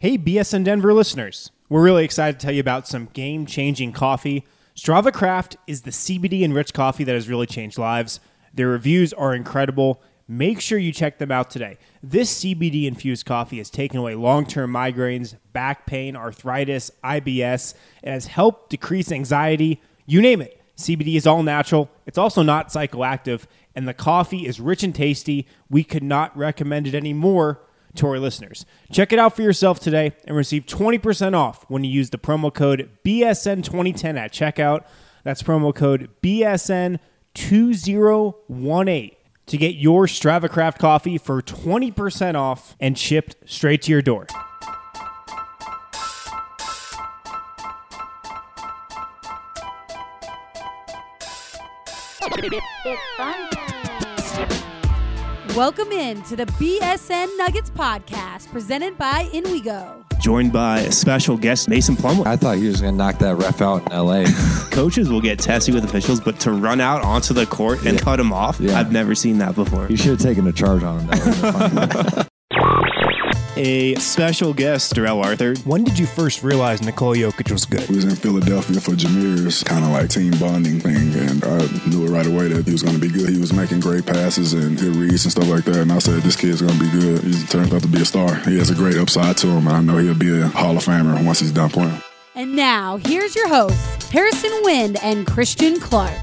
Hey, BSN Denver listeners. We're really excited to tell you about some game-changing coffee. Strava Craft is the CBD-enriched coffee that has really changed lives. Their reviews are incredible. Make sure you check them out today. This CBD-infused coffee has taken away long-term migraines, back pain, arthritis, IBS. It has helped decrease anxiety. You name it. CBD is all natural. It's also not psychoactive. And the coffee is rich and tasty. We could not recommend it anymore to our listeners. Check it out for yourself today and receive 20% off when you use the promo code BSN2010 at checkout. That's promo code BSN2018 to get your Strava Craft coffee for 20% off and shipped straight to your door. It's fun. Welcome in to the BSN Nuggets podcast presented by InWeGo. Joined by a special guest, Mason Plumlee. I thought you were just going to knock that ref out in L.A. Coaches will get testy with officials, but to run out onto the court and cut him off, I've never seen that before. You should have taken a charge on him. That would have been fun. A special guest, Darrell Arthur. When did you first realize Nikola Jokic was good? We was in Philadelphia for Jameer's kind of like team bonding thing, and I knew it right away that he was going to be good. He was making great passes and good reads and stuff like that, and I said, this kid's going to be good. He turned out to be a star. He has a great upside to him, and I know he'll be a Hall of Famer once he's done playing. And now, here's your hosts, Harrison Wind and Christian Clark.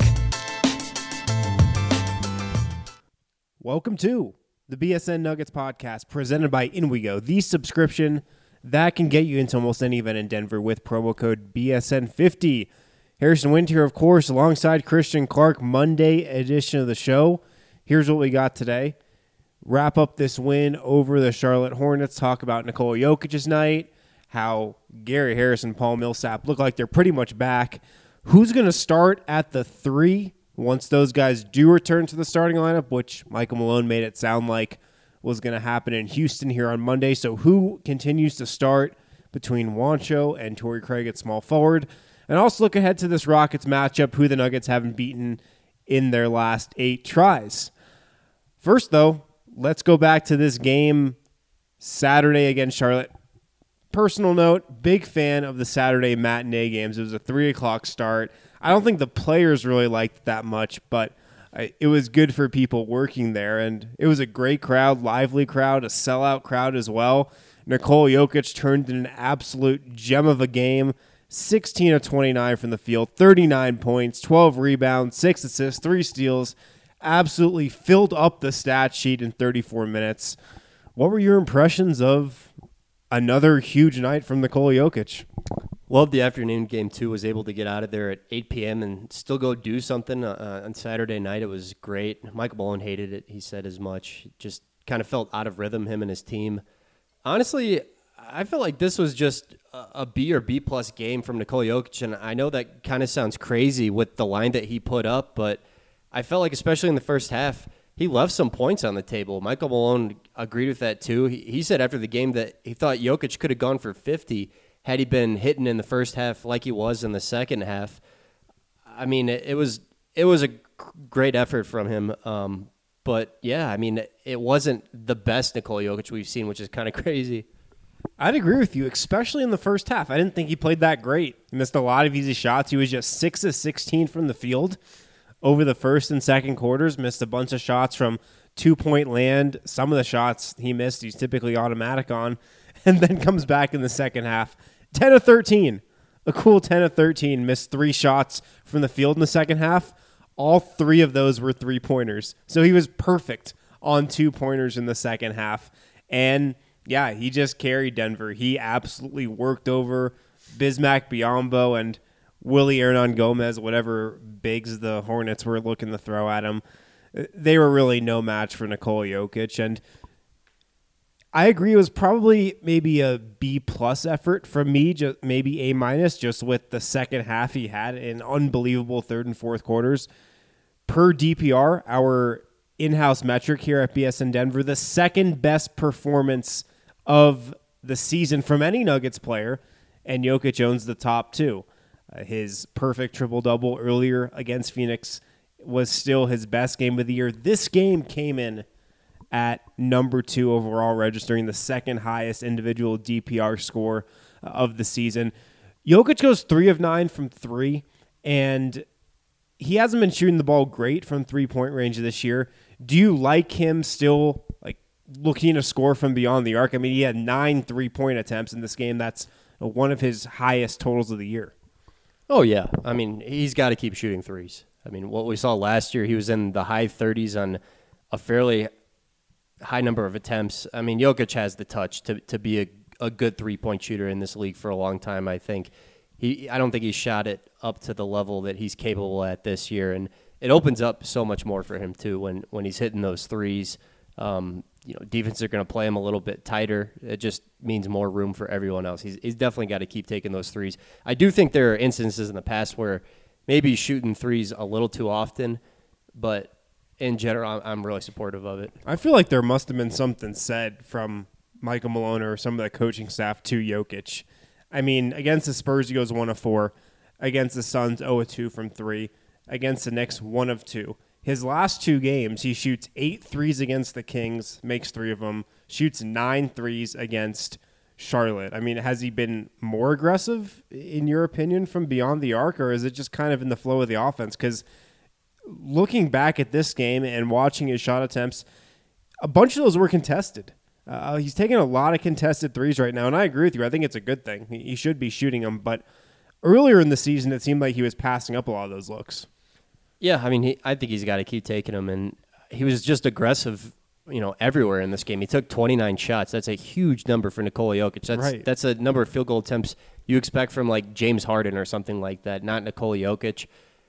Welcome to the BSN Nuggets podcast presented by InWeGo, the subscription that can get you into almost any event in Denver with promo code BSN50. Harrison Wind here, of course, alongside Christian Clark, Monday edition of the show. Here's what we got today. Wrap up this win over the Charlotte Hornets, talk about Nikola Jokic's night, how Gary Harris and Paul Millsap look like they're pretty much back. Who's going to start at the 3 once those guys do return to the starting lineup, which Michael Malone made it sound like was going to happen in Houston here on Monday. So who continues to start between Juancho and Torrey Craig at small forward? And also look ahead to this Rockets matchup, who the Nuggets haven't beaten in their last 8 tries. First, though, let's go back to this game Saturday against Charlotte. Personal note, big fan of the Saturday matinee games. It was a 3 o'clock start. I don't think the players really liked it that much, but it was good for people working there. And it was a great crowd, lively crowd, a sellout crowd as well. Nikola Jokic turned in an absolute gem of a game. 16 of 29 from the field, 39 points, 12 rebounds, 6 assists, 3 steals. Absolutely filled up the stat sheet in 34 minutes. What were your impressions of another huge night from Nikola Jokic? Loved the afternoon game, too. Was able to get out of there at 8 p.m. and still go do something on Saturday night. It was great. Michael Malone hated it. He said as much. Just kind of felt out of rhythm, him and his team. Honestly, I felt like this was just a B or B-plus game from Nikola Jokic, and I know that kind of sounds crazy with the line that he put up, but I felt like, especially in the first half, he left some points on the table. Michael Malone agreed with that, too. He said after the game that he thought Jokic could have gone for 50 had he been hitting in the first half like he was in the second half. I mean, it was a great effort from him. But, yeah, I mean, it wasn't the best Nikola Jokic we've seen, which is kind of crazy. I'd agree with you, especially in the first half. I didn't think he played that great. He missed a lot of easy shots. He was just 6 of 16 from the field over the first and second quarters. Missed a bunch of shots from two-point land. Some of the shots he missed, he's typically automatic on, and then comes back in the second half. 10 of 13. A cool 10 of 13. Missed 3 shots from the field in the second half. All 3 of those were 3-pointers. So he was perfect on 2-pointers in the second half. And, yeah, he just carried Denver. He absolutely worked over Bismack Biyombo and Willie Hernan-Gomez, whatever bigs the Hornets were looking to throw at him. They were really no match for Nikola Jokic. And I agree it was probably maybe a B-plus effort from me, just maybe A-minus, just with the second half he had in unbelievable third and fourth quarters. Per DPR, our in-house metric here at BSN Denver, the second best performance of the season from any Nuggets player, and Jokic owns the top 2. His perfect triple-double earlier against Phoenix was still his best game of the year. This game came in at number 2 overall, registering the second highest individual DPR score of the season. Jokic goes 3 of 9 from 3, and he hasn't been shooting the ball great from three-point range this year. Do you like him still looking to score from beyond the arc? I mean, he had 9 3-point attempts in this game. That's one of his highest totals of the year. Oh, yeah. I mean, he's got to keep shooting threes. I mean, what we saw last year, he was in the high 30s on a fairly high number of attempts. I mean, Jokic has the touch to be a good three-point shooter in this league for a long time, I think. I don't think he shot it up to the level that he's capable at this year, and it opens up so much more for him, too, when he's hitting those threes. Defenses are going to play him a little bit tighter. It just means more room for everyone else. He's definitely got to keep taking those threes. I do think there are instances in the past where maybe he's shooting threes a little too often, but in general, I'm really supportive of it. I feel like there must have been something said from Michael Malone or some of the coaching staff to Jokic. I mean, against the Spurs, he goes 1 of 4. Against the Suns, 0 of 2 from 3. Against the Knicks, 1 of 2. His last 2 games, he shoots 8 threes against the Kings, makes 3 of them, shoots 9 threes against Charlotte. I mean, has he been more aggressive, in your opinion, from beyond the arc, or is it just kind of in the flow of the offense? Because looking back at this game and watching his shot attempts, a bunch of those were contested. He's taking a lot of contested threes right now, and I agree with you. I think it's a good thing. He should be shooting them, but earlier in the season, it seemed like he was passing up a lot of those looks. Yeah, I mean, I think he's got to keep taking them, and he was just aggressive, everywhere in this game. He took 29 shots. That's a huge number for Nikola Jokic. That's a number of field goal attempts you expect from like James Harden or something like that, not Nikola Jokic.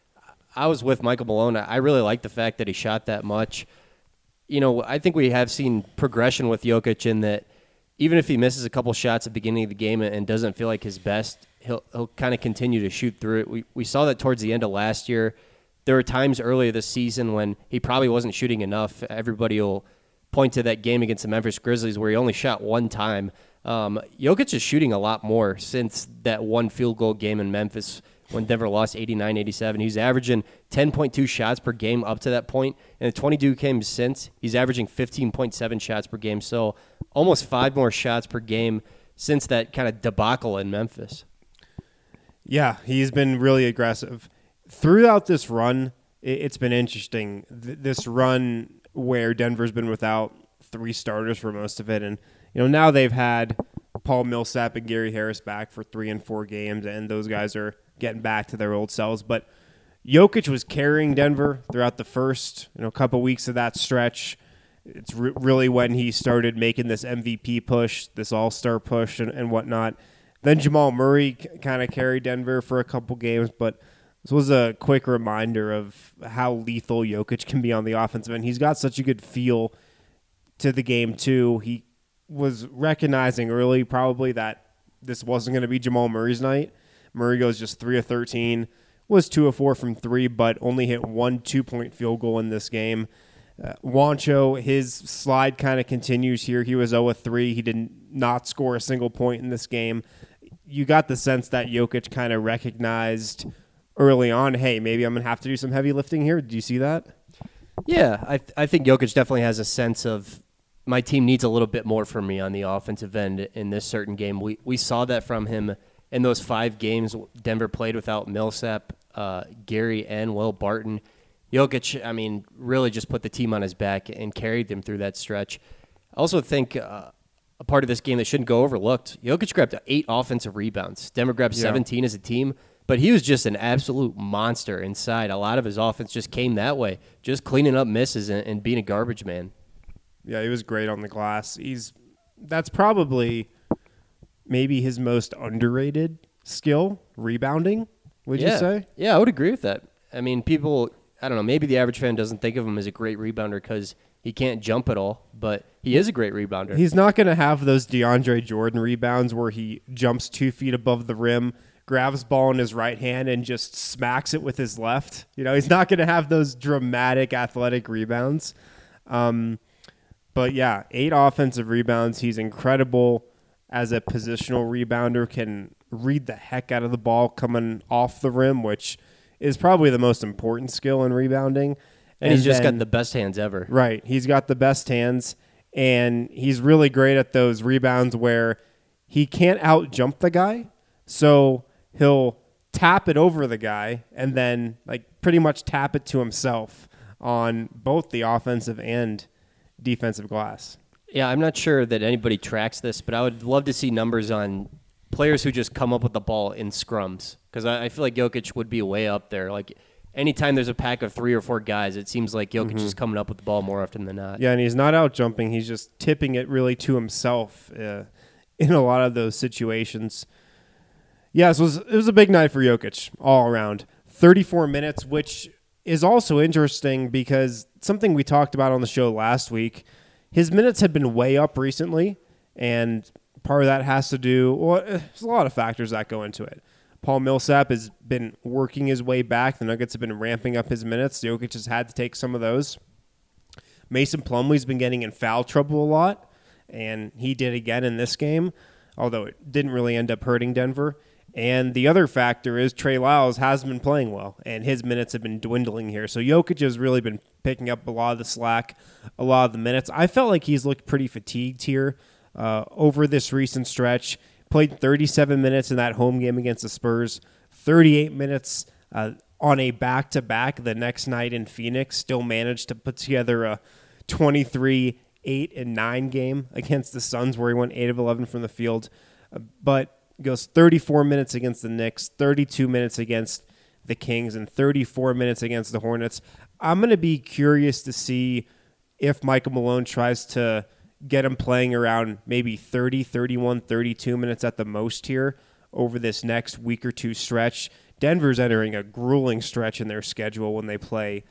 I was with Michael Malone. I really like the fact that he shot that much. I think we have seen progression with Jokic in that even if he misses a couple shots at the beginning of the game and doesn't feel like his best, he'll kind of continue to shoot through it. We saw that towards the end of last year. There were times earlier this season when he probably wasn't shooting enough. Everybody will point to that game against the Memphis Grizzlies where he only shot 1 time. Jokic is shooting a lot more since that 1 field goal game in Memphis when Denver lost 89-87. He's averaging 10.2 shots per game up to that point. And the 22 games since, he's averaging 15.7 shots per game. So almost 5 more shots per game since that kind of debacle in Memphis. Yeah, he's been really aggressive. Throughout this run, it's been interesting. This run where Denver's been without 3 starters for most of it. And, now they've had Paul Millsap and Gary Harris back for 3 and 4 games, and those guys are getting back to their old selves. But Jokic was carrying Denver throughout the first couple weeks of that stretch. It's really when he started making this MVP push, this all-star push and whatnot. Then Jamal Murray kind of carried Denver for a couple games, but this was a quick reminder of how lethal Jokic can be on the offensive end. He's got such a good feel to the game, too. He was recognizing early probably that this wasn't going to be Jamal Murray's night. Murray goes just 3 of 13, was 2 of 4 from 3, but only hit 1 2-point field goal in this game. Juancho, his slide kind of continues here. He was 0 of 3. He did not score a single point in this game. You got the sense that Jokic kind of recognized early on, hey, maybe I'm going to have to do some heavy lifting here. Do you see that? Yeah, I think Jokic definitely has a sense of my team needs a little bit more from me on the offensive end in this certain game. We saw that from him in those 5 games Denver played without Millsap, Gary, and Will Barton. Jokic, really just put the team on his back and carried them through that stretch. I also think a part of this game that shouldn't go overlooked, Jokic grabbed 8 offensive rebounds. Denver grabbed 17 as a team, but he was just an absolute monster inside. A lot of his offense just came that way, just cleaning up misses and being a garbage man. Yeah, he was great on the glass. That's probably maybe his most underrated skill, rebounding, would you say? Yeah, I would agree with that. People, I don't know, maybe the average fan doesn't think of him as a great rebounder because he can't jump at all, but he is a great rebounder. He's not going to have those DeAndre Jordan rebounds where he jumps 2 feet above the rim, grabs ball in his right hand, and just smacks it with his left. He's not going to have those dramatic athletic rebounds. But yeah, 8 offensive rebounds. He's incredible as a positional rebounder, can read the heck out of the ball coming off the rim, which is probably the most important skill in rebounding. And he's just then- got the best hands ever. Right. He's got the best hands, and he's really great at those rebounds where he can't out-jump the guy, so he'll tap it over the guy and then like pretty much tap it to himself on both the offensive and defensive glass. Yeah, I'm not sure that anybody tracks this, but I would love to see numbers on players who just come up with the ball in scrums, because I feel like Jokic would be way up there. Like anytime there's a pack of 3 or 4 guys, it seems like Jokic is coming up with the ball more often than not. Yeah, and he's not out jumping. He's just tipping it really to himself in a lot of those situations. Yeah, so it was a big night for Jokic all around. 34 minutes, which is also interesting because something we talked about on the show last week, his minutes had been way up recently, and part of that has to do, well, there's a lot of factors that go into it. Paul Millsap has been working his way back. The Nuggets have been ramping up his minutes. Jokic has had to take some of those. Mason Plumlee's been getting in foul trouble a lot, and he did again in this game, although it didn't really end up hurting Denver. And the other factor is Trey Lyles hasn't been playing well, and his minutes have been dwindling here. So Jokic has really been picking up a lot of the slack, a lot of the minutes. I felt like he's looked pretty fatigued here over this recent stretch. Played 37 minutes in that home game against the Spurs, 38 minutes on a back-to-back the next night in Phoenix. Still managed to put together a 23, 8, and 9 game against the Suns where he went 8 of 11 from the field. But goes 34 minutes against the Knicks, 32 minutes against the Kings, and 34 minutes against the Hornets. I'm going to be curious to see if Michael Malone tries to get him playing around maybe 30, 31, 32 minutes at the most here over this next week or two stretch. Denver's entering a grueling stretch in their schedule when they play,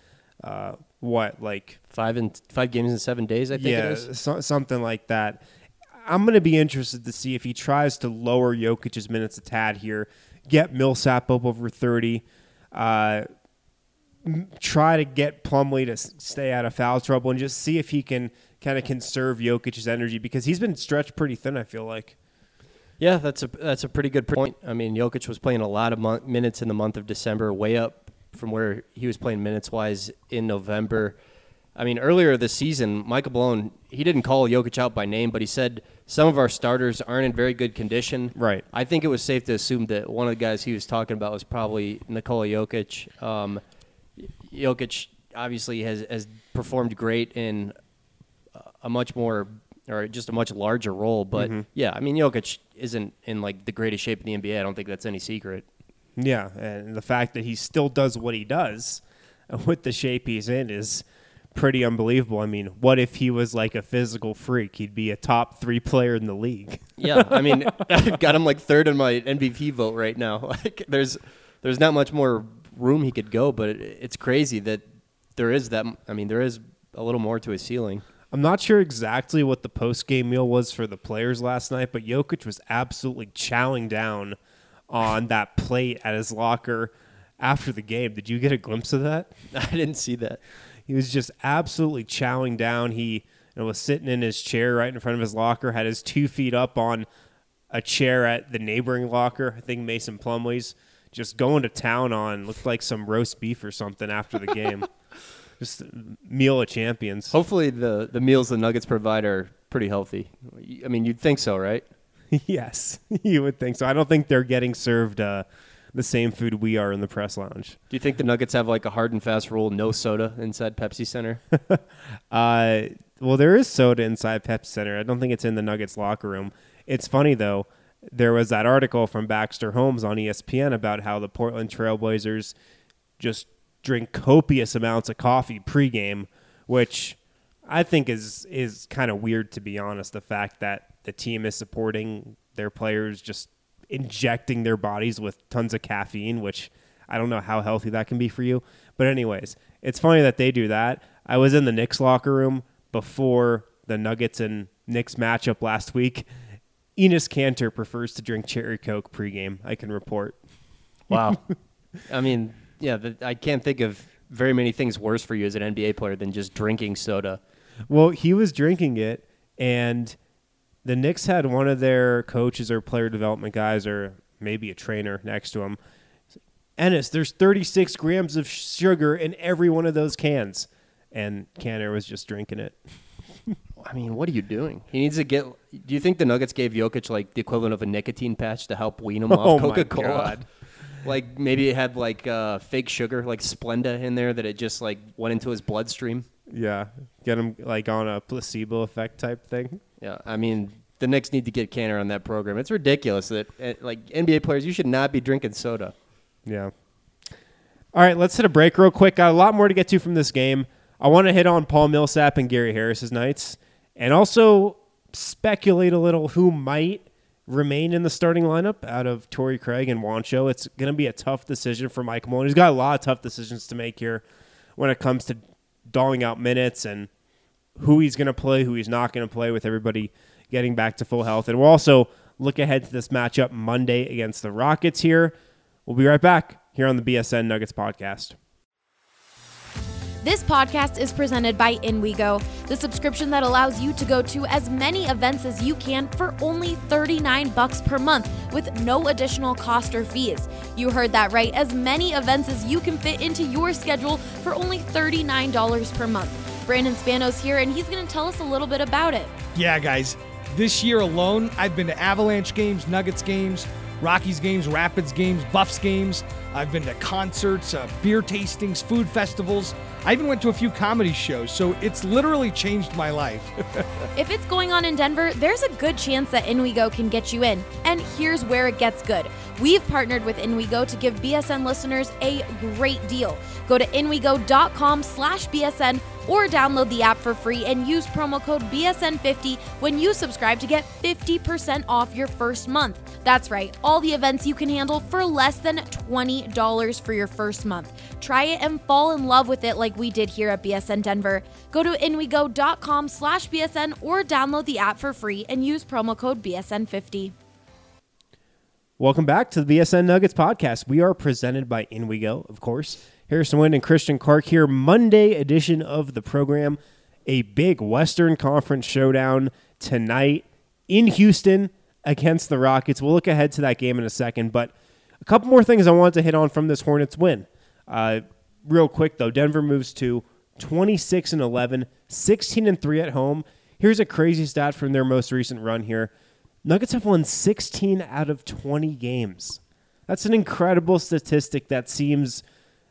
5 games in 7 days, I think it is. Something like that. I'm going to be interested to see if he tries to lower Jokic's minutes a tad here, get Millsap up over 30, try to get Plumlee to stay out of foul trouble, and just see if he can kind of conserve Jokic's energy, because he's been stretched pretty thin, I feel like. Yeah, that's a pretty good point. I mean, Jokic was playing a lot of minutes in the month of December, way up from where he was playing minutes-wise in November. I mean, earlier this season, Michael Malone, he didn't call Jokic out by name, but he said some of our starters aren't in very good condition. Right. I think it was safe to assume that one of the guys he was talking about was probably Nikola Jokic. Jokic obviously has performed great in a much larger role, but yeah, I mean, Jokic isn't in like the greatest shape in the NBA. I don't think that's any secret. Yeah, and the fact that he still does what he does with the shape he's in is pretty unbelievable. I mean, what if he was like a physical freak? He'd be a top 3 player in the league. Yeah, I mean, I've got him like 3rd in my MVP vote right now. Like, there's not much more room he could go, but it's crazy that there is that. I mean, there is a little more to his ceiling. I'm not sure exactly what the post-game meal was for the players last night, but Jokic was absolutely chowing down on that plate at his locker after the game. Did you get a glimpse of that? I didn't see that. He was just absolutely chowing down. He was sitting in his chair right in front of his locker, had his 2 feet up on a chair at the neighboring locker, I think Mason Plumlee's, just going to town on, looked like some roast beef or something after the game. Just meal of champions. Hopefully the meals the Nuggets provide are pretty healthy. I mean, you'd think so, right? Yes, you would think so. I don't think they're getting served the same food we are in the press lounge. Do you think the Nuggets have like a hard and fast rule, no soda inside Pepsi Center? Well, there is soda inside Pepsi Center. I don't think it's in the Nuggets locker room. It's funny, though. There was that article from Baxter Holmes on ESPN about how the Portland Trailblazers just drink copious amounts of coffee pregame, which I think is kind of weird, to be honest. The fact that the team is supporting their players just injecting their bodies with tons of caffeine, which I don't know how healthy that can be for you. But anyways, it's funny that they do that. I was in the Knicks locker room before the Nuggets and Knicks matchup last week. Enes Kanter prefers to drink cherry Coke pregame, I can report. Wow. I mean, yeah, I can't think of very many things worse for you as an NBA player than just drinking soda. Well, he was drinking it, and the Knicks had one of their coaches or player development guys or maybe a trainer next to him. Enes, there's 36 grams of sugar in every one of those cans. and Canner was just drinking it. I mean, what are you doing? He needs to get. Do you think the Nuggets gave Jokic like the equivalent of a nicotine patch to help wean him off Coca-Cola? My God. Like maybe it had like fake sugar, like Splenda in there that it just like went into his bloodstream. Yeah, get him like on a placebo effect type thing. Yeah, I mean, the Knicks need to get Canner on that program. It's ridiculous that like NBA players, you should not be drinking soda. Yeah. All right, let's hit a break real quick. Got a lot more to get to from this game. I want to hit on Paul Millsap and Gary Harris's nights, and also speculate a little who might remain in the starting lineup out of Torrey Craig and Juancho. It's going to be a tough decision for Mike Malone. He's got a lot of tough decisions to make here when it comes to doling out minutes and who he's going to play, who he's not going to play, with everybody getting back to full health. And we'll also look ahead to this matchup Monday against the Rockets here. We'll be right back here on the BSN Nuggets podcast. This podcast is presented by InWeGo, the subscription that allows you to go to as many events as you can for only $39 per month with no additional cost or fees. You heard that right, as many events as you can fit into your schedule for only $39 per month. Brandon Spanos here, and he's going to tell us a little bit about it. Yeah, guys, this year alone, I've been to Avalanche games, Nuggets games, Rockies games, Rapids games, Buffs games. I've been to concerts, beer tastings, food festivals. I even went to a few comedy shows, so it's literally changed my life. If it's going on in Denver, there's a good chance that InWeGo can get you in. And here's where it gets good. We've partnered with InWeGo to give BSN listeners a great deal. Go to inwego.com/BSN or download the app for free and use promo code BSN50 when you subscribe to get 50% off your first month. That's right, all the events you can handle for less than $20 for your first month. Try it and fall in love with it like we did here at BSN Denver. Go to inwego.com/BSN or download the app for free and use promo code BSN50. Welcome back to the BSN Nuggets podcast. We are presented by InWeGo, of course. Harrison Wind and Christian Clark here. Monday edition of the program. A big Western Conference showdown tonight in Houston against the Rockets. We'll look ahead to that game in a second, but a couple more things I wanted to hit on from this Hornets win. Real quick, though, Denver moves to 26-11, 16-3 at home. Here's a crazy stat from their most recent run here. Nuggets have won 16 out of 20 games. That's an incredible statistic that seems...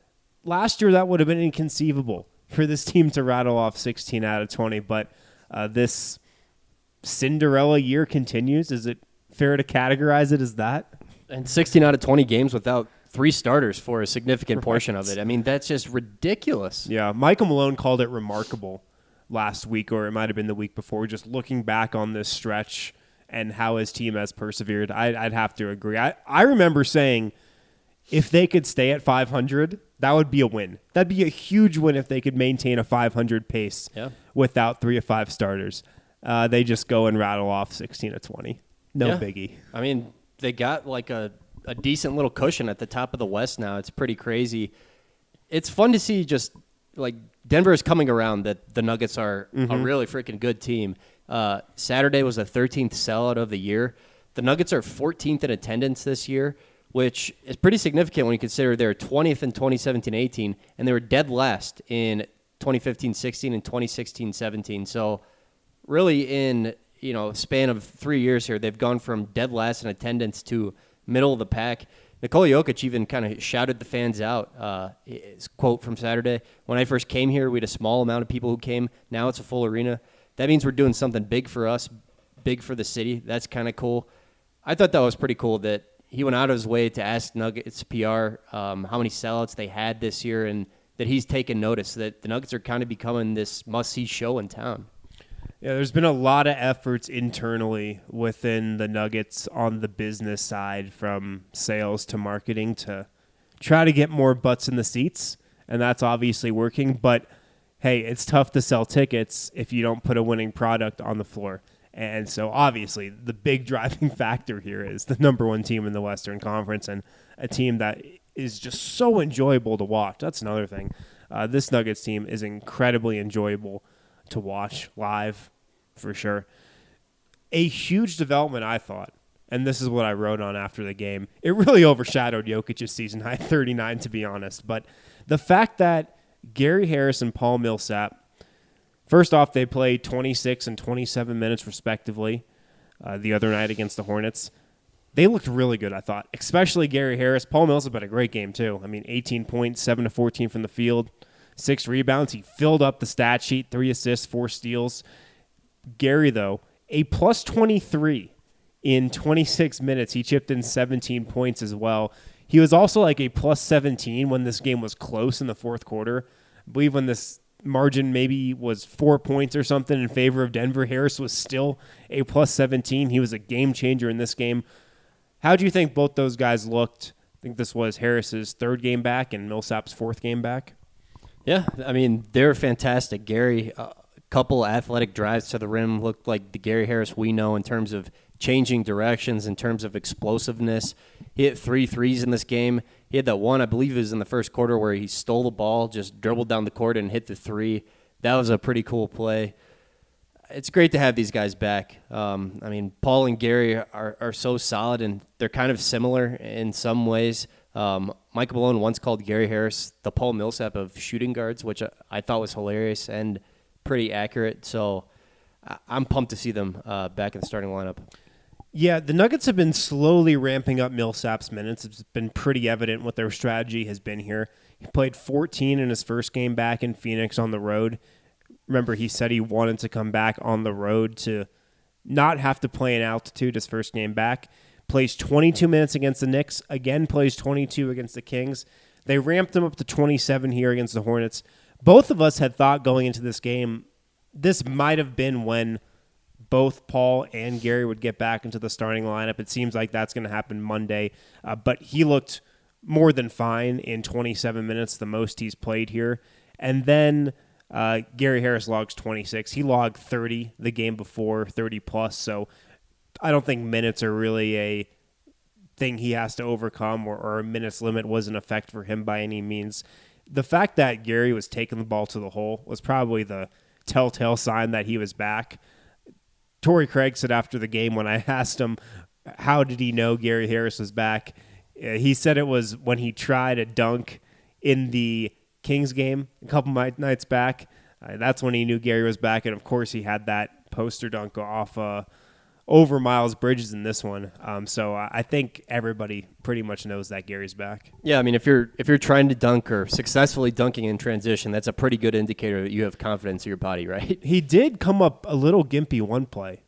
Last year, that would have been inconceivable for this team to rattle off 16 out of 20, but this Cinderella year continues. Is it fair to categorize it as that? And 16 out of 20 games without 3 starters for a significant portion of it. I mean, that's just ridiculous. Yeah, Michael Malone called it remarkable last week, or it might have been the week before, just looking back on this stretch and how his team has persevered. I'd have to agree. I remember saying if they could stay at 500, that would be a win. That'd be a huge win if they could maintain a 500 pace without 3 of 5 starters. They just go and rattle off 16 of 20. No biggie. I mean, they got like a decent little cushion at the top of the West now. It's pretty crazy. It's fun to see just like Denver is coming around that the Nuggets are a really freaking good team. Saturday was the 13th sellout of the year. The Nuggets are 14th in attendance this year, which is pretty significant when you consider they were 20th in 2017-18, and they were dead last in 2015-16 and 2016-17. So really in span of 3 years here, they've gone from dead last in attendance to middle of the pack. Nikola Jokic even kind of shouted the fans out. His quote from Saturday, "When I first came here, we had a small amount of people who came. Now it's a full arena. That means we're doing something big for us, big for the city." That's kind of cool. I thought that was pretty cool that he went out of his way to ask Nuggets PR how many sellouts they had this year, and that he's taken notice that the Nuggets are kind of becoming this must-see show in town. Yeah, there's been a lot of efforts internally within the Nuggets on the business side, from sales to marketing, to try to get more butts in the seats, and that's obviously working. But, hey, it's tough to sell tickets if you don't put a winning product on the floor. And so, obviously, the big driving factor here is the number one team in the Western Conference, and a team that is just so enjoyable to watch. That's another thing. This Nuggets team is incredibly enjoyable to watch live, for sure. A huge development, I thought, and this is what I wrote on after the game. It really overshadowed Jokic's season high 39, to be honest. But the fact that Gary Harris and Paul Millsap. First off, they played 26 and 27 minutes respectively the other night against the Hornets. They looked really good, I thought, especially Gary Harris. Paul Millsap had a great game, too. I mean, 18 points, 7 to 14 from the field, 6 rebounds. He filled up the stat sheet, 3 assists, 4 steals. Gary, though, a plus 23 in 26 minutes. He chipped in 17 points as well. He was also like a plus 17 when this game was close in the fourth quarter. I believe when this margin maybe was 4 points or something in favor of Denver, Harris was still a plus 17. He was a game changer in this game. How do you think both those guys looked? I think this was Harris's third game back and Millsap's fourth game back. Yeah, I mean, they're fantastic. Gary, a couple athletic drives to the rim looked like the Gary Harris we know in terms of changing directions, in terms of explosiveness. He hit 3 threes in this game. He had that one, I believe it was in the first quarter, where he stole the ball, just dribbled down the court and hit the 3. That was a pretty cool play. It's great to have these guys back. I mean, Paul and Gary are so solid, and they're kind of similar in some ways. Michael Malone once called Gary Harris the Paul Millsap of shooting guards, which I thought was hilarious and pretty accurate. So I'm pumped to see them back in the starting lineup. Yeah, the Nuggets have been slowly ramping up Millsap's minutes. It's been pretty evident what their strategy has been here. He played 14 in his first game back in Phoenix on the road. Remember, he said he wanted to come back on the road to not have to play in altitude his first game back. Plays 22 minutes against the Knicks. Again, plays 22 against the Kings. They ramped him up to 27 here against the Hornets. Both of us had thought going into this game, this might have been when both Paul and Gary would get back into the starting lineup. It seems like that's going to happen Monday. But he looked more than fine in 27 minutes, the most he's played here. And then Gary Harris logs 26. He logged 30 the game before, 30 plus. So I don't think minutes are really a thing he has to overcome, or a minutes limit was in effect for him by any means. The fact that Gary was taking the ball to the hole was probably the telltale sign that he was back. Torrey Craig said after the game, when I asked him how did he know Gary Harris was back, he said it was when he tried a dunk in the Kings game a couple nights back. That's when he knew Gary was back, and of course he had that poster dunk off over Miles Bridges in this one. So I think everybody pretty much knows that Gary's back. Yeah, I mean, if you're trying to dunk or successfully dunking in transition, that's a pretty good indicator that you have confidence in your body, right? He did come up a little gimpy one play.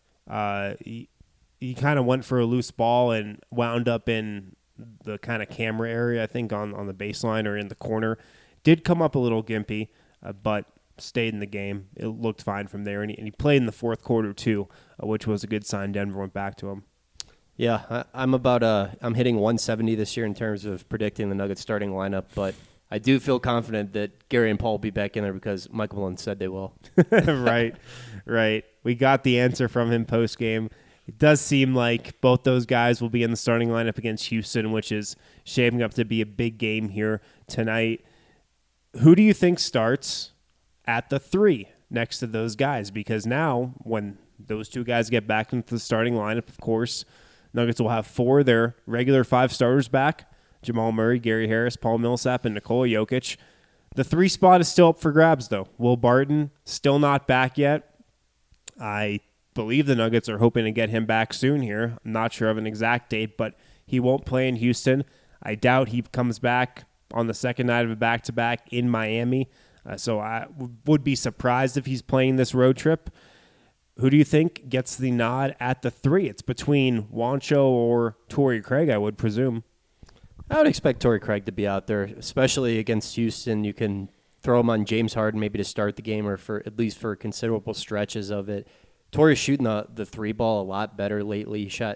He kind of went for a loose ball and wound up in the kind of camera area, I think, on the baseline or in the corner. Did come up a little gimpy, but stayed in the game. It looked fine from there, and he played in the fourth quarter too, which was a good sign. Denver went back to him. Yeah, I'm hitting 170 this year in terms of predicting the Nuggets starting lineup, but I do feel confident that Gary and Paul will be back in there because Michael Malone said they will. Right. We got the answer from him post game. It does seem like both those guys will be in the starting lineup against Houston, which is shaping up to be a big game here tonight. Who do you think starts at the 3 next to those guys? Because now, when those two guys get back into the starting lineup, of course, Nuggets will have 4 of their regular 5 starters back: Jamal Murray, Gary Harris, Paul Millsap, and Nikola Jokic. The 3 spot is still up for grabs, though. Will Barton still not back yet. I believe the Nuggets are hoping to get him back soon here. I'm not sure of an exact date, but he won't play in Houston. I doubt he comes back on the second night of a back-to-back in Miami. So I would be surprised if he's playing this road trip. Who do you think gets the nod at the 3? It's between Juancho or Torrey Craig, I would presume. I would expect Torrey Craig to be out there, especially against Houston. You can throw him on James Harden maybe to start the game, or for at least for considerable stretches of it. Torrey's shooting the 3 ball a lot better lately. He shot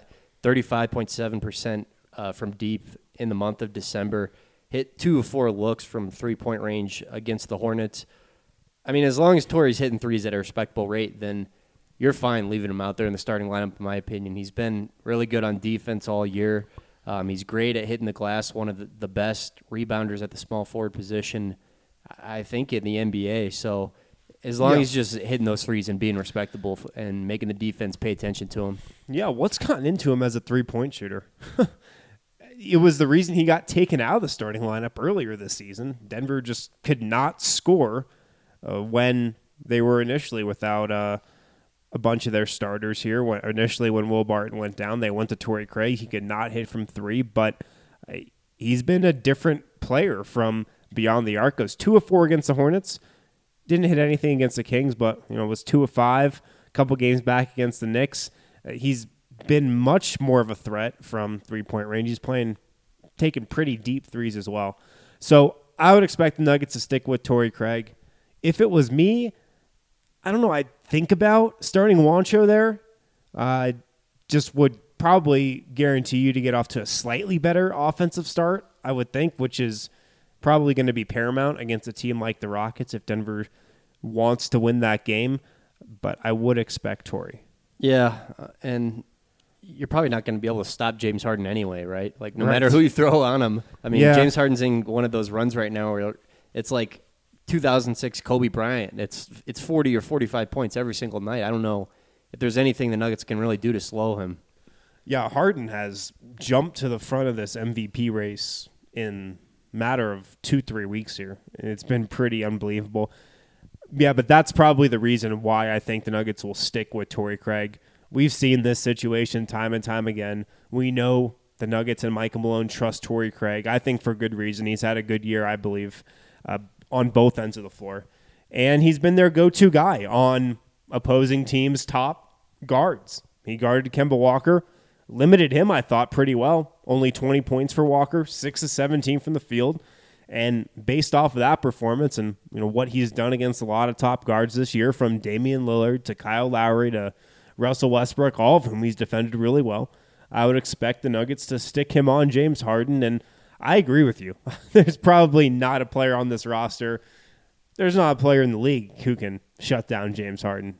35.7% from deep in the month of December. Hit 2 of 4 looks from 3-point range against the Hornets. I mean, as long as Torrey's hitting threes at a respectable rate, then you're fine leaving him out there in the starting lineup, in my opinion. He's been really good on defense all year. He's great at hitting the glass, one of the best rebounders at the small forward position, I think, in the NBA. So as long as he's just hitting those threes and being respectable and making the defense pay attention to him. Yeah, what's gotten into him as a 3-point shooter? it was the reason he got taken out of the starting lineup earlier this season. Denver just could not score when they were initially without a bunch of their starters here. Initially, when Will Barton went down, they went to Torrey Craig. He could not hit from three, but he's been a different player from beyond the arc. Goes 2 of 4 against the Hornets. Didn't hit anything against the Kings, but was 2 of 5. A couple games back against the Knicks. He's been much more of a threat from three-point range. He's taking pretty deep threes as well. So I would expect the Nuggets to stick with Torrey Craig. If it was me, I don't know, I'd think about starting Juancho there. I just would probably guarantee you to get off to a slightly better offensive start, I would think, which is probably going to be paramount against a team like the Rockets if Denver wants to win that game. But I would expect Torrey. Yeah, and you're probably not going to be able to stop James Harden anyway, right? Like, no matter who you throw on him. I mean, James Harden's in one of those runs right now where it's like 2006 Kobe Bryant. It's 40 or 45 points every single night. I don't know if there's anything the Nuggets can really do to slow him. Yeah, Harden has jumped to the front of this MVP race in a matter of 2-3 weeks here. It's been pretty unbelievable. Yeah, but that's probably the reason why I think the Nuggets will stick with Torrey Craig. We've seen this situation time and time again. We know the Nuggets and Michael Malone trust Torrey Craig. I think for good reason. He's had a good year, I believe, on both ends of the floor. And he's been their go-to guy on opposing teams' top guards. He guarded Kemba Walker, limited him, I thought, pretty well. Only 20 points for Walker, 6 of 17 from the field. And based off of that performance and what he's done against a lot of top guards this year, from Damian Lillard to Kyle Lowry to Russell Westbrook, all of whom he's defended really well, I would expect the Nuggets to stick him on James Harden. And I agree with you. There's probably not a player on this roster. There's not a player in the league who can shut down James Harden.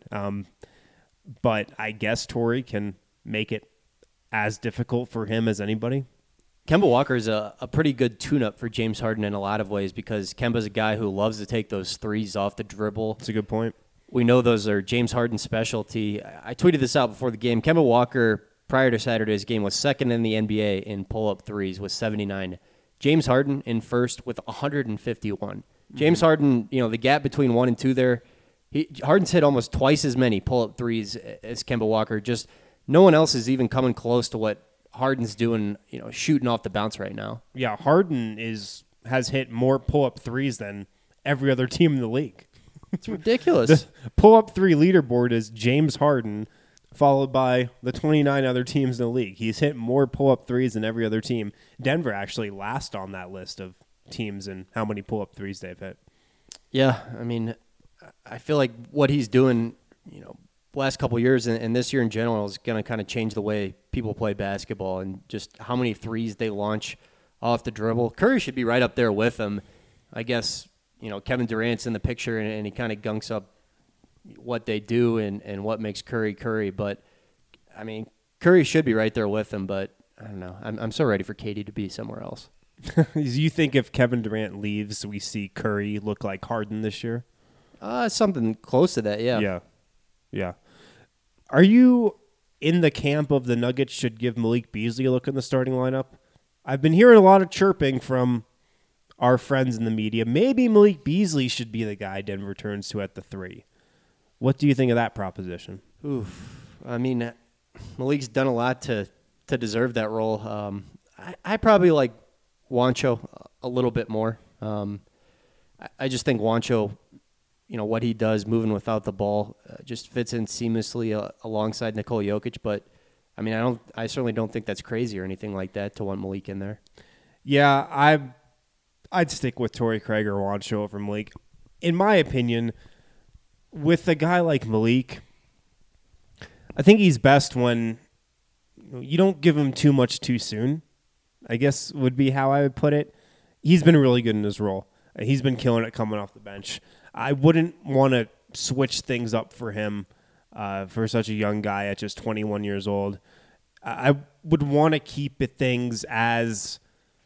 But I guess Torrey can make it as difficult for him as anybody. Kemba Walker is a pretty good tune-up for James Harden in a lot of ways because Kemba's a guy who loves to take those threes off the dribble. That's a good point. We know those are James Harden's specialty. I tweeted this out before the game. Kemba Walker, prior to Saturday's game, was second in the NBA in pull-up threes with 79. James Harden in first with 151. James Harden, the gap between 1 and 2 there, Harden's hit almost twice as many pull-up threes as Kemba Walker. Just no one else is even coming close to what Harden's doing, shooting off the bounce right now. Yeah, Harden has hit more pull-up threes than every other team in the league. It's ridiculous. The pull-up three leaderboard is James Harden, followed by the 29 other teams in the league. He's hit more pull-up threes than every other team. Denver actually last on that list of teams and how many pull-up threes they've hit. Yeah, I mean, I feel like what he's doing, last couple of years and this year in general is going to kind of change the way people play basketball and just how many threes they launch off the dribble. Curry should be right up there with him. I guess, Kevin Durant's in the picture and he kind of gunks up what they do and what makes Curry. But, I mean, Curry should be right there with him, but I don't know. I'm so ready for KD to be somewhere else. You think if Kevin Durant leaves, we see Curry look like Harden this year? Something close to that, yeah. Yeah. Are you in the camp of the Nuggets should give Malik Beasley a look in the starting lineup? I've been hearing a lot of chirping from our friends in the media. Maybe Malik Beasley should be the guy Denver turns to at the 3. What do you think of that proposition? Oof. I mean, Malik's done a lot to deserve that role. I probably like Juancho a little bit more. I just think Juancho, what he does moving without the ball just fits in seamlessly alongside Nikola Jokic. But, I mean, I certainly don't think that's crazy or anything like that to want Malik in there. Yeah, I'd stick with Torrey Craig or Juancho over Malik. In my opinion, with a guy like Malik, I think he's best when you don't give him too much too soon, I guess would be how I would put it. He's been really good in his role. He's been killing it coming off the bench. I wouldn't want to switch things up for him for such a young guy at just 21 years old. I would want to keep things as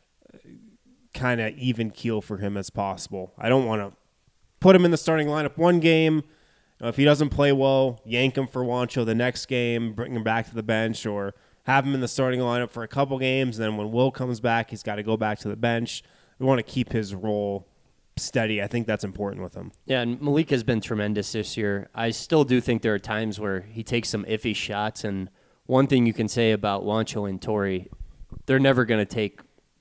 kind of even keel for him as possible. I don't want to put him in the starting lineup one game. If he doesn't play well, yank him for Juancho the next game, bring him back to the bench, or have him in the starting lineup for a couple games, and then when Will comes back, he's got to go back to the bench. We want to keep his role steady. I think that's important with him. Yeah, and Malik has been tremendous this year. I still do think there are times where he takes some iffy shots, and one thing you can say about Juancho and Torrey, they're never going to take,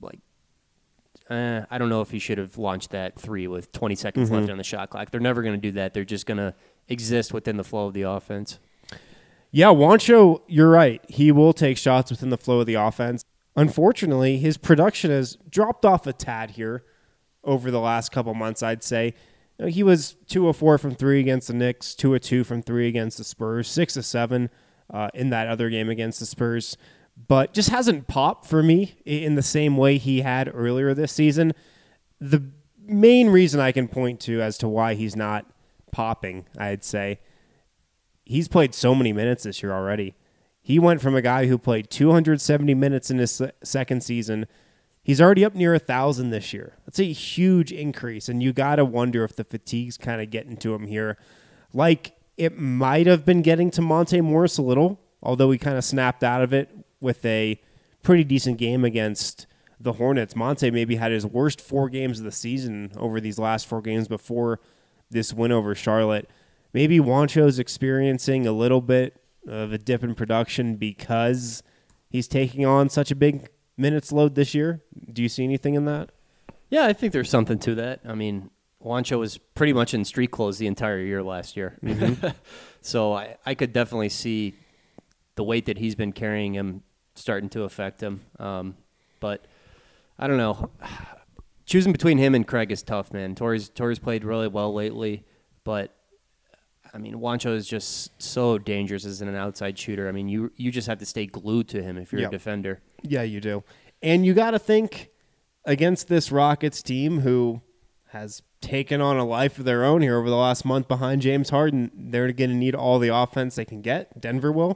I don't know if he should have launched that 3 with 20 seconds left on the shot clock. They're never going to do that. They're just going to exist within the flow of the offense. Yeah, Juancho, you're right. He will take shots within the flow of the offense. Unfortunately, his production has dropped off a tad here over the last couple months, I'd say. He was 2 of 4 from 3 against the Knicks, 2 of 2 from 3 against the Spurs, 6 of 7 in that other game against the Spurs, but just hasn't popped for me in the same way he had earlier this season. The main reason I can point to as to why he's not popping, I'd say, he's played so many minutes this year already. He went from a guy who played 270 minutes in his second season. He's already up near 1,000 this year. That's a huge increase, and you got to wonder if the fatigue's kind of getting to him here. Like it might have been getting to Monte Morris a little, although he kind of snapped out of it with a pretty decent game against the Hornets. Monte maybe had his worst 4 games of the season over these last 4 games before this win over Charlotte. Maybe Juancho's experiencing a little bit of a dip in production because he's taking on such a big minutes load this year. Do you see anything in that? Yeah, I think there's something to that. I mean, Juancho was pretty much in street clothes the entire year last year. So I could definitely see the weight that he's been carrying him starting to affect him. But I don't know. Choosing between him and Craig is tough, man. Torrey's played really well lately, but I mean, Juancho is just so dangerous as an outside shooter. I mean, you just have to stay glued to him if you're a defender. Yeah, you do. And you got to think against this Rockets team who has taken on a life of their own here over the last month behind James Harden, they're going to need all the offense they can get. Denver will.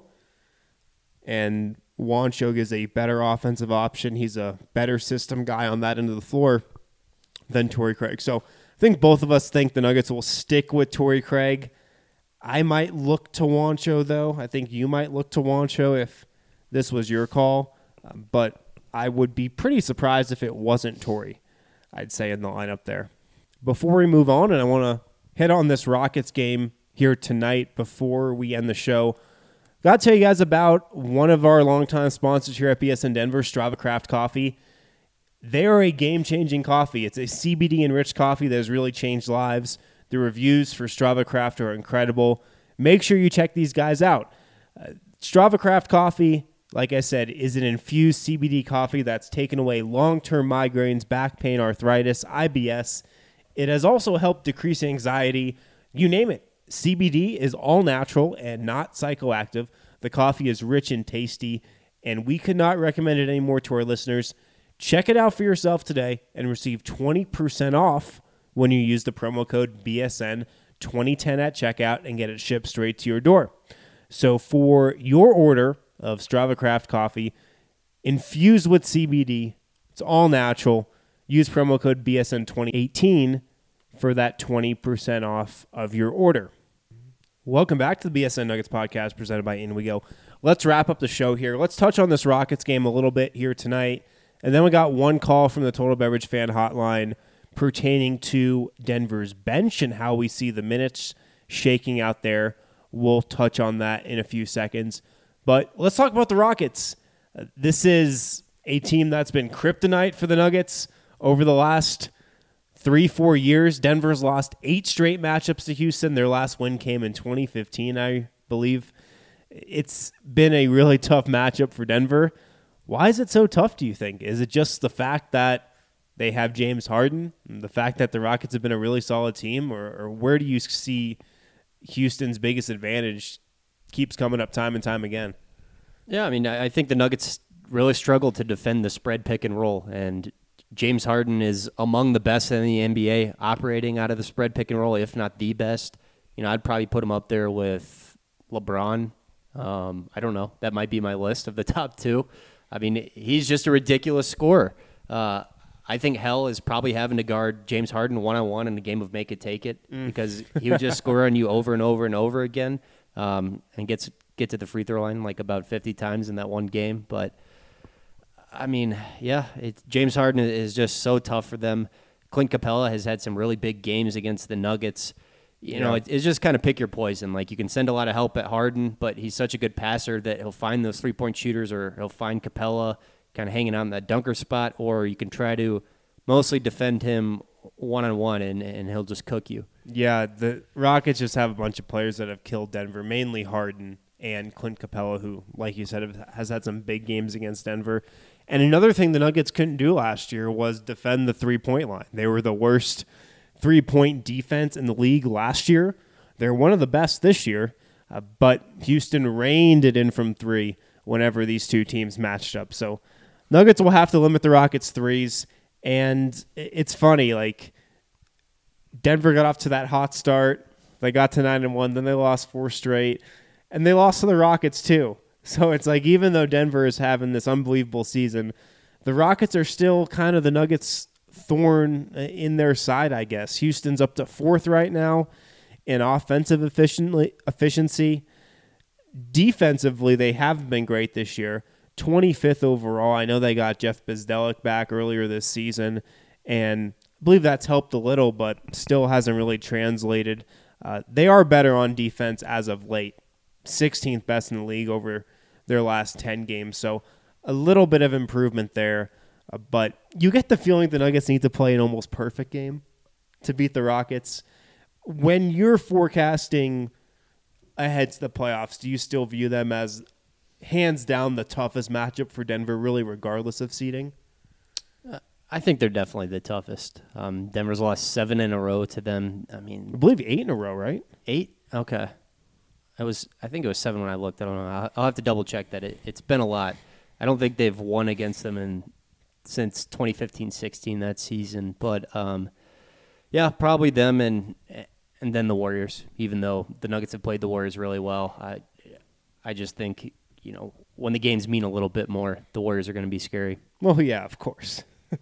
And Juancho gives a better offensive option. He's a better system guy on that end of the floor than Torrey Craig. So I think both of us think the Nuggets will stick with Torrey Craig. I might look to Juancho, though. I think you might look to Juancho if this was your call. But I would be pretty surprised if it wasn't Torrey, I'd say, in the lineup there. Before we move on, and I want to hit on this Rockets game here tonight before we end the show, got to tell you guys about one of our longtime sponsors here at BSN Denver, Strava Craft Coffee. They are a game-changing coffee. It's a CBD-enriched coffee that has really changed lives. The reviews for Strava Craft are incredible. Make sure you check these guys out. Strava Craft Coffee, like I said, is an infused CBD coffee that's taken away long-term migraines, back pain, arthritis, IBS. It has also helped decrease anxiety. You name it. CBD is all natural and not psychoactive. The coffee is rich and tasty, and we could not recommend it anymore to our listeners. Check it out for yourself today and receive 20% off when you use the promo code BSN2010 at checkout and get it shipped straight to your door. So for your order of Strava Craft coffee, infused with CBD, it's all natural. Use promo code BSN2018 for that 20% off of your order. Welcome back to the BSN Nuggets podcast presented by In We Go. Let's wrap up the show here. Let's touch on this Rockets game a little bit here tonight. And then we got one call from the Total Beverage Fan Hotline pertaining to Denver's bench and how we see the minutes shaking out there. We'll touch on that in a few seconds. But let's talk about the Rockets. This is a team that's been kryptonite for the Nuggets over the last 3-4 years. Denver's lost 8 straight matchups to Houston. Their last win came in 2015, I believe. It's been a really tough matchup for Denver. Why is it so tough, do you think? Is it just the fact that they have James Harden, and the fact that the Rockets have been a really solid team, or where do you see Houston's biggest advantage keeps coming up time and time again? Yeah, I mean, I think the Nuggets really struggle to defend the spread pick and roll, and James Harden is among the best in the NBA operating out of the spread pick and roll, if not the best. You know, I'd probably put him up there with LeBron. I don't know. That might be my list of the top 2. I mean, he's just a ridiculous scorer. I think hell is probably having to guard James Harden one-on-one in the game of make it, take it, because he would just score on you over and over and over again, and gets get to the free throw line like about 50 times in that one game. But, I mean, yeah, James Harden is just so tough for them. Clint Capella has had some really big games against the Nuggets. You know, it's just kind of pick your poison. Like, you can send a lot of help at Harden, but he's such a good passer that he'll find those three-point shooters, or he'll find Capella kind of hanging out in that dunker spot, or you can try to mostly defend him one-on-one, and he'll just cook you. Yeah, the Rockets just have a bunch of players that have killed Denver, mainly Harden and Clint Capella, who, like you said, has had some big games against Denver. And another thing the Nuggets couldn't do last year was defend the three-point line. They were the worst three-point defense in the league last year. They're one of the best this year, but Houston reined it in from three whenever these two teams matched up. So Nuggets will have to limit the Rockets' threes, and it's funny, like, Denver got off to that hot start. They got to 9-1, then they lost 4 straight, and they lost to the Rockets too. So it's like, even though Denver is having this unbelievable season, the Rockets are still kind of the Nuggets' thorn in their side, I guess. Houston's up to 4th right now in offensive efficiency. Defensively, they haven't been great this year. 25th overall. I know they got Jeff Bzdelik back earlier this season, and I believe that's helped a little, but still hasn't really translated. They are better on defense as of late. 16th best in the league over their last 10 games. So a little bit of improvement there. But you get the feeling the Nuggets need to play an almost perfect game to beat the Rockets. When you're forecasting ahead to the playoffs, do you still view them as hands down the toughest matchup for Denver, really regardless of seeding? I think they're definitely the toughest. Denver's lost 7 in a row to them. I believe 8 in a row, right? 8? Okay. I think it was 7 when I looked. I don't know. I'll have to double check that. It's been a lot. I don't think they've won against them since 2015-16 that season. But yeah, probably them and then the Warriors. Even though the Nuggets have played the Warriors really well, I just think, you know, when the games mean a little bit more, the Warriors are going to be scary. Well, yeah, of course.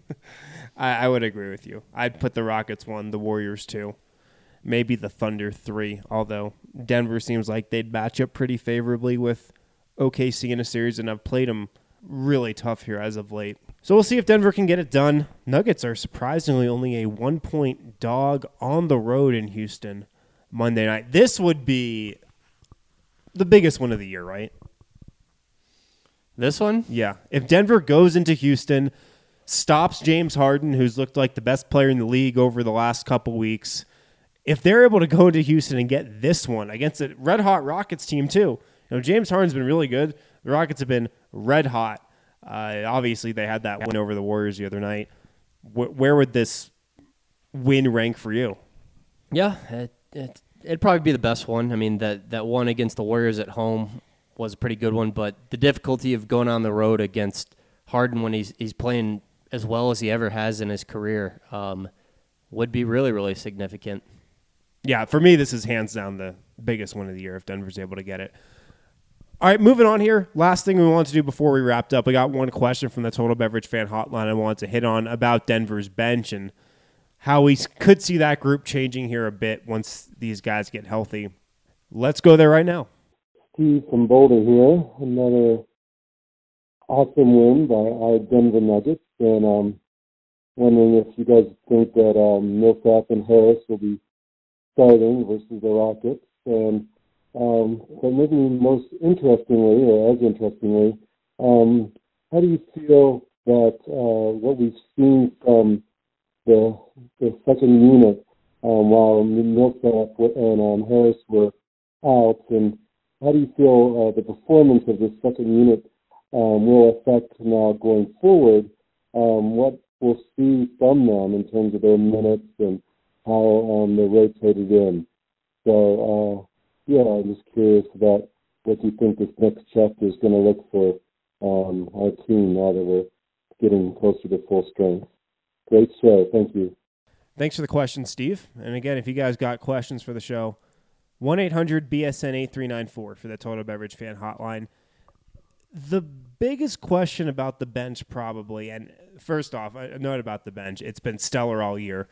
I would agree with you. I'd put the Rockets 1, the Warriors 2, maybe the Thunder 3, although Denver seems like they'd match up pretty favorably with OKC in a series, and I've played them really tough here as of late. So we'll see if Denver can get it done. Nuggets are surprisingly only a 1-point dog on the road in Houston Monday night. This would be the biggest one of the year, right? This one? Yeah. If Denver goes into Houston, stops James Harden, who's looked like the best player in the league over the last couple weeks, if they're able to go into Houston and get this one against a red-hot Rockets team too, you know, James Harden's been really good. The Rockets have been red-hot. Obviously, they had that win over the Warriors the other night. Where would this win rank for you? Yeah, it'd probably be the best one. I mean, that one against the Warriors at home was a pretty good one, but the difficulty of going on the road against Harden when he's playing as well as he ever has in his career would be really, really significant. Yeah, for me, this is hands down the biggest one of the year if Denver's able to get it. All right, moving on here. Last thing we wanted to do before we wrapped up, we got one question from the Total Beverage Fan Hotline I wanted to hit on about Denver's bench and how we could see that group changing here a bit once these guys get healthy. Let's go there right now. Steve from Boulder here. Another awesome win by our Denver Nuggets. And wondering if you guys think that Millsap and Harris will be starting versus the Rockets. And but maybe most interestingly, or as interestingly, how do you feel that what we've seen from the second unit while Millsap and Harris were out, and how do you feel the performance of this second unit will affect now going forward what we'll see from them in terms of their minutes and how they're rotated in? So, yeah, I'm just curious about what you think this next chapter is going to look for our team now that we're getting closer to full strength. Great show. Thank you. Thanks for the question, Steve. And again, if you guys got questions for the show, 1-800-BSN-8394 for the Total Beverage Fan Hotline. The biggest question about the bench probably, and first off, a note about the bench, it's been stellar all year.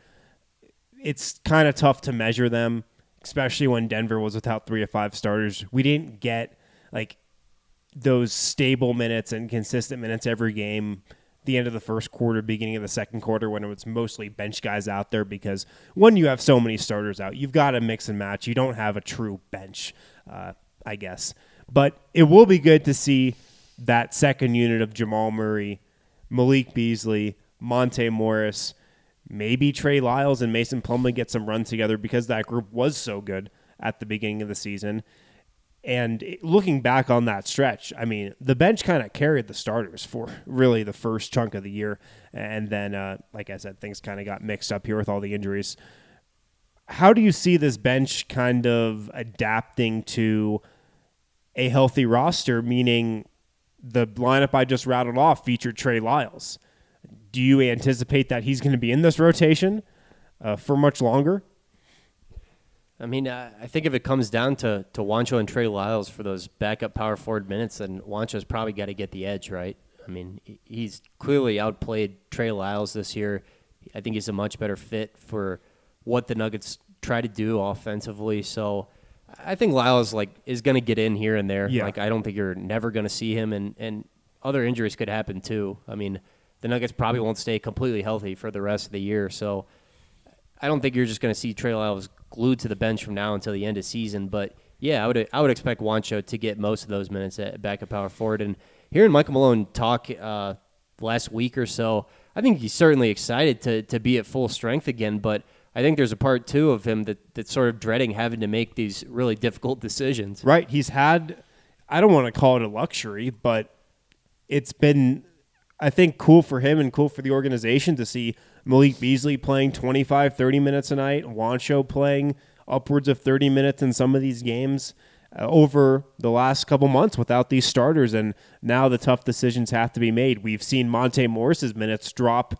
It's kind of tough to measure them, especially when Denver was without 3 of 5 starters. We didn't get like those stable minutes and consistent minutes every game, the end of the first quarter, beginning of the second quarter, when it was mostly bench guys out there, because when you have so many starters out, you've got to mix and match. You don't have a true bench, I guess. But it will be good to see that second unit of Jamal Murray, Malik Beasley, Monte Morris, maybe Trey Lyles and Mason Plumlee get some run together, because that group was so good at the beginning of the season. And looking back on that stretch, I mean, the bench kind of carried the starters for really the first chunk of the year. And then, like I said, things kind of got mixed up here with all the injuries. How do you see this bench kind of adapting to a healthy roster, meaning the lineup I just rattled off featured Trey Lyles? Do you anticipate that he's going to be in this rotation for much longer? I mean, I think if it comes down to Juancho and Trey Lyles for those backup power forward minutes, then Juancho's probably got to get the edge, right? I mean, he's clearly outplayed Trey Lyles this year. I think he's a much better fit for what the Nuggets try to do offensively. So I think Lyles is going to get in here and there. Yeah. I don't think you're never going to see him, and other injuries could happen too. I mean, the Nuggets probably won't stay completely healthy for the rest of the year. So I don't think you're just going to see Trey Lyles glued to the bench from now until the end of season. But yeah, I would expect Juancho to get most of those minutes at backup power forward. And hearing Michael Malone talk last week or so, I think he's certainly excited to be at full strength again. But I think there's a part too of him that's sort of dreading having to make these really difficult decisions. Right. He's had, I don't want to call it a luxury, but it's been, I think, cool for him and cool for the organization to see Malik Beasley playing 25, 30 minutes a night, Juancho playing upwards of 30 minutes in some of these games over the last couple months without these starters, and now the tough decisions have to be made. We've seen Monte Morris's minutes drop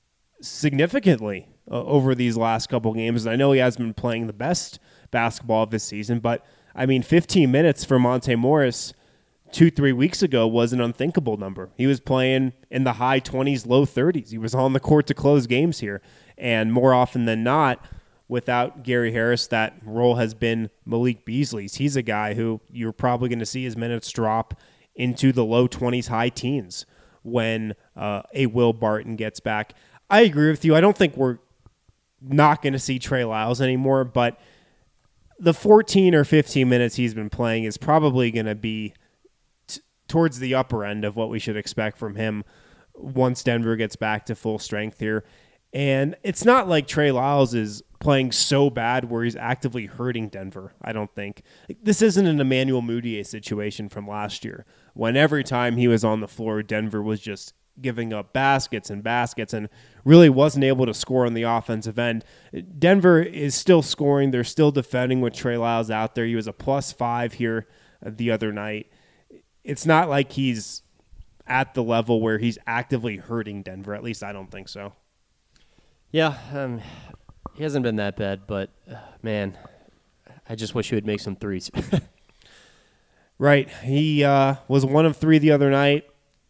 significantly over these last couple games, and I know he hasn't been playing the best basketball of this season, but I mean, 15 minutes for Monte Morris 2-3 weeks ago was an unthinkable number. He was playing in the high 20s, low 30s. He was on the court to close games here. And more often than not, without Gary Harris, that role has been Malik Beasley's. He's a guy who you're probably going to see his minutes drop into the low 20s, high teens when a Will Barton gets back. I agree with you. I don't think we're not going to see Trey Lyles anymore, but the 14 or 15 minutes he's been playing is probably going to be towards the upper end of what we should expect from him once Denver gets back to full strength here. And it's not like Trey Lyles is playing so bad where he's actively hurting Denver, I don't think. This isn't an Emmanuel Mudiay situation from last year, when every time he was on the floor, Denver was just giving up baskets and really wasn't able to score on the offensive end. Denver is still scoring. They're still defending with Trey Lyles out there. He was a +5 here the other night. It's not like he's at the level where he's actively hurting Denver. At least I don't think so. Yeah, he hasn't been that bad, but man, I just wish he would make some threes. Right. He was 1 of 3 the other night.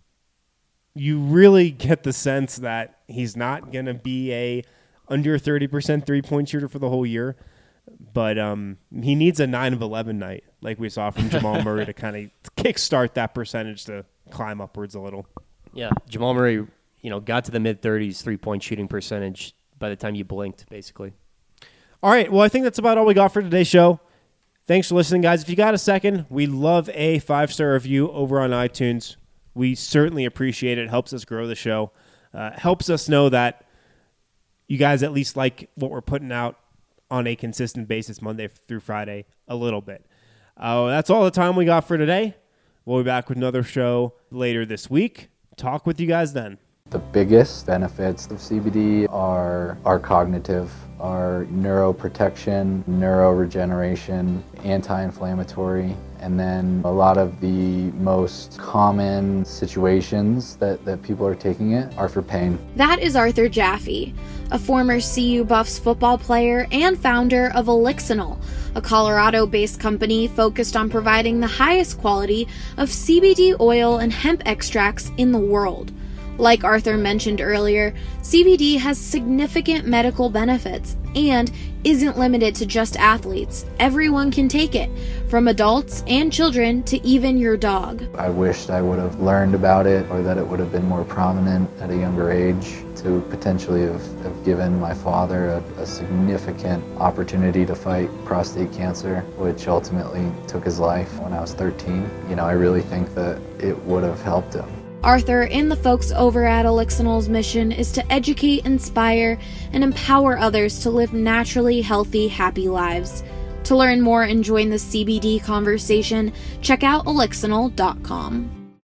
You really get the sense that he's not going to be a under 30% three-point shooter for the whole year. But he needs a 9 of 11 night, like we saw from Jamal Murray, to kind of kickstart that percentage to climb upwards a little. Yeah, Jamal Murray, got to the mid-30s three-point shooting percentage by the time you blinked, basically. All right, well, I think that's about all we got for today's show. Thanks for listening, guys. If you got a second, we love a 5-star review over on iTunes. We certainly appreciate it. It helps us grow the show. Helps us know that you guys at least like what we're putting out on a consistent basis Monday through Friday a little bit. That's all the time we got for today. We'll be back with another show later this week. Talk with you guys then. The biggest benefits of CBD are cognitive, are neuroprotection, neuroregeneration, anti-inflammatory, and then a lot of the most common situations that people are taking it are for pain. That is Arthur Jaffe, a former CU Buffs football player and founder of Elixinol, a Colorado-based company focused on providing the highest quality of CBD oil and hemp extracts in the world. Like Arthur mentioned earlier, CBD has significant medical benefits and isn't limited to just athletes. Everyone can take it, from adults and children to even your dog. I wished I would have learned about it, or that it would have been more prominent at a younger age, to potentially have given my father a significant opportunity to fight prostate cancer, which ultimately took his life when I was 13. I really think that it would have helped him. Arthur and the folks over at Elixinol's mission is to educate, inspire, and empower others to live naturally healthy, happy lives. To learn more and join the CBD conversation, check out elixinol.com.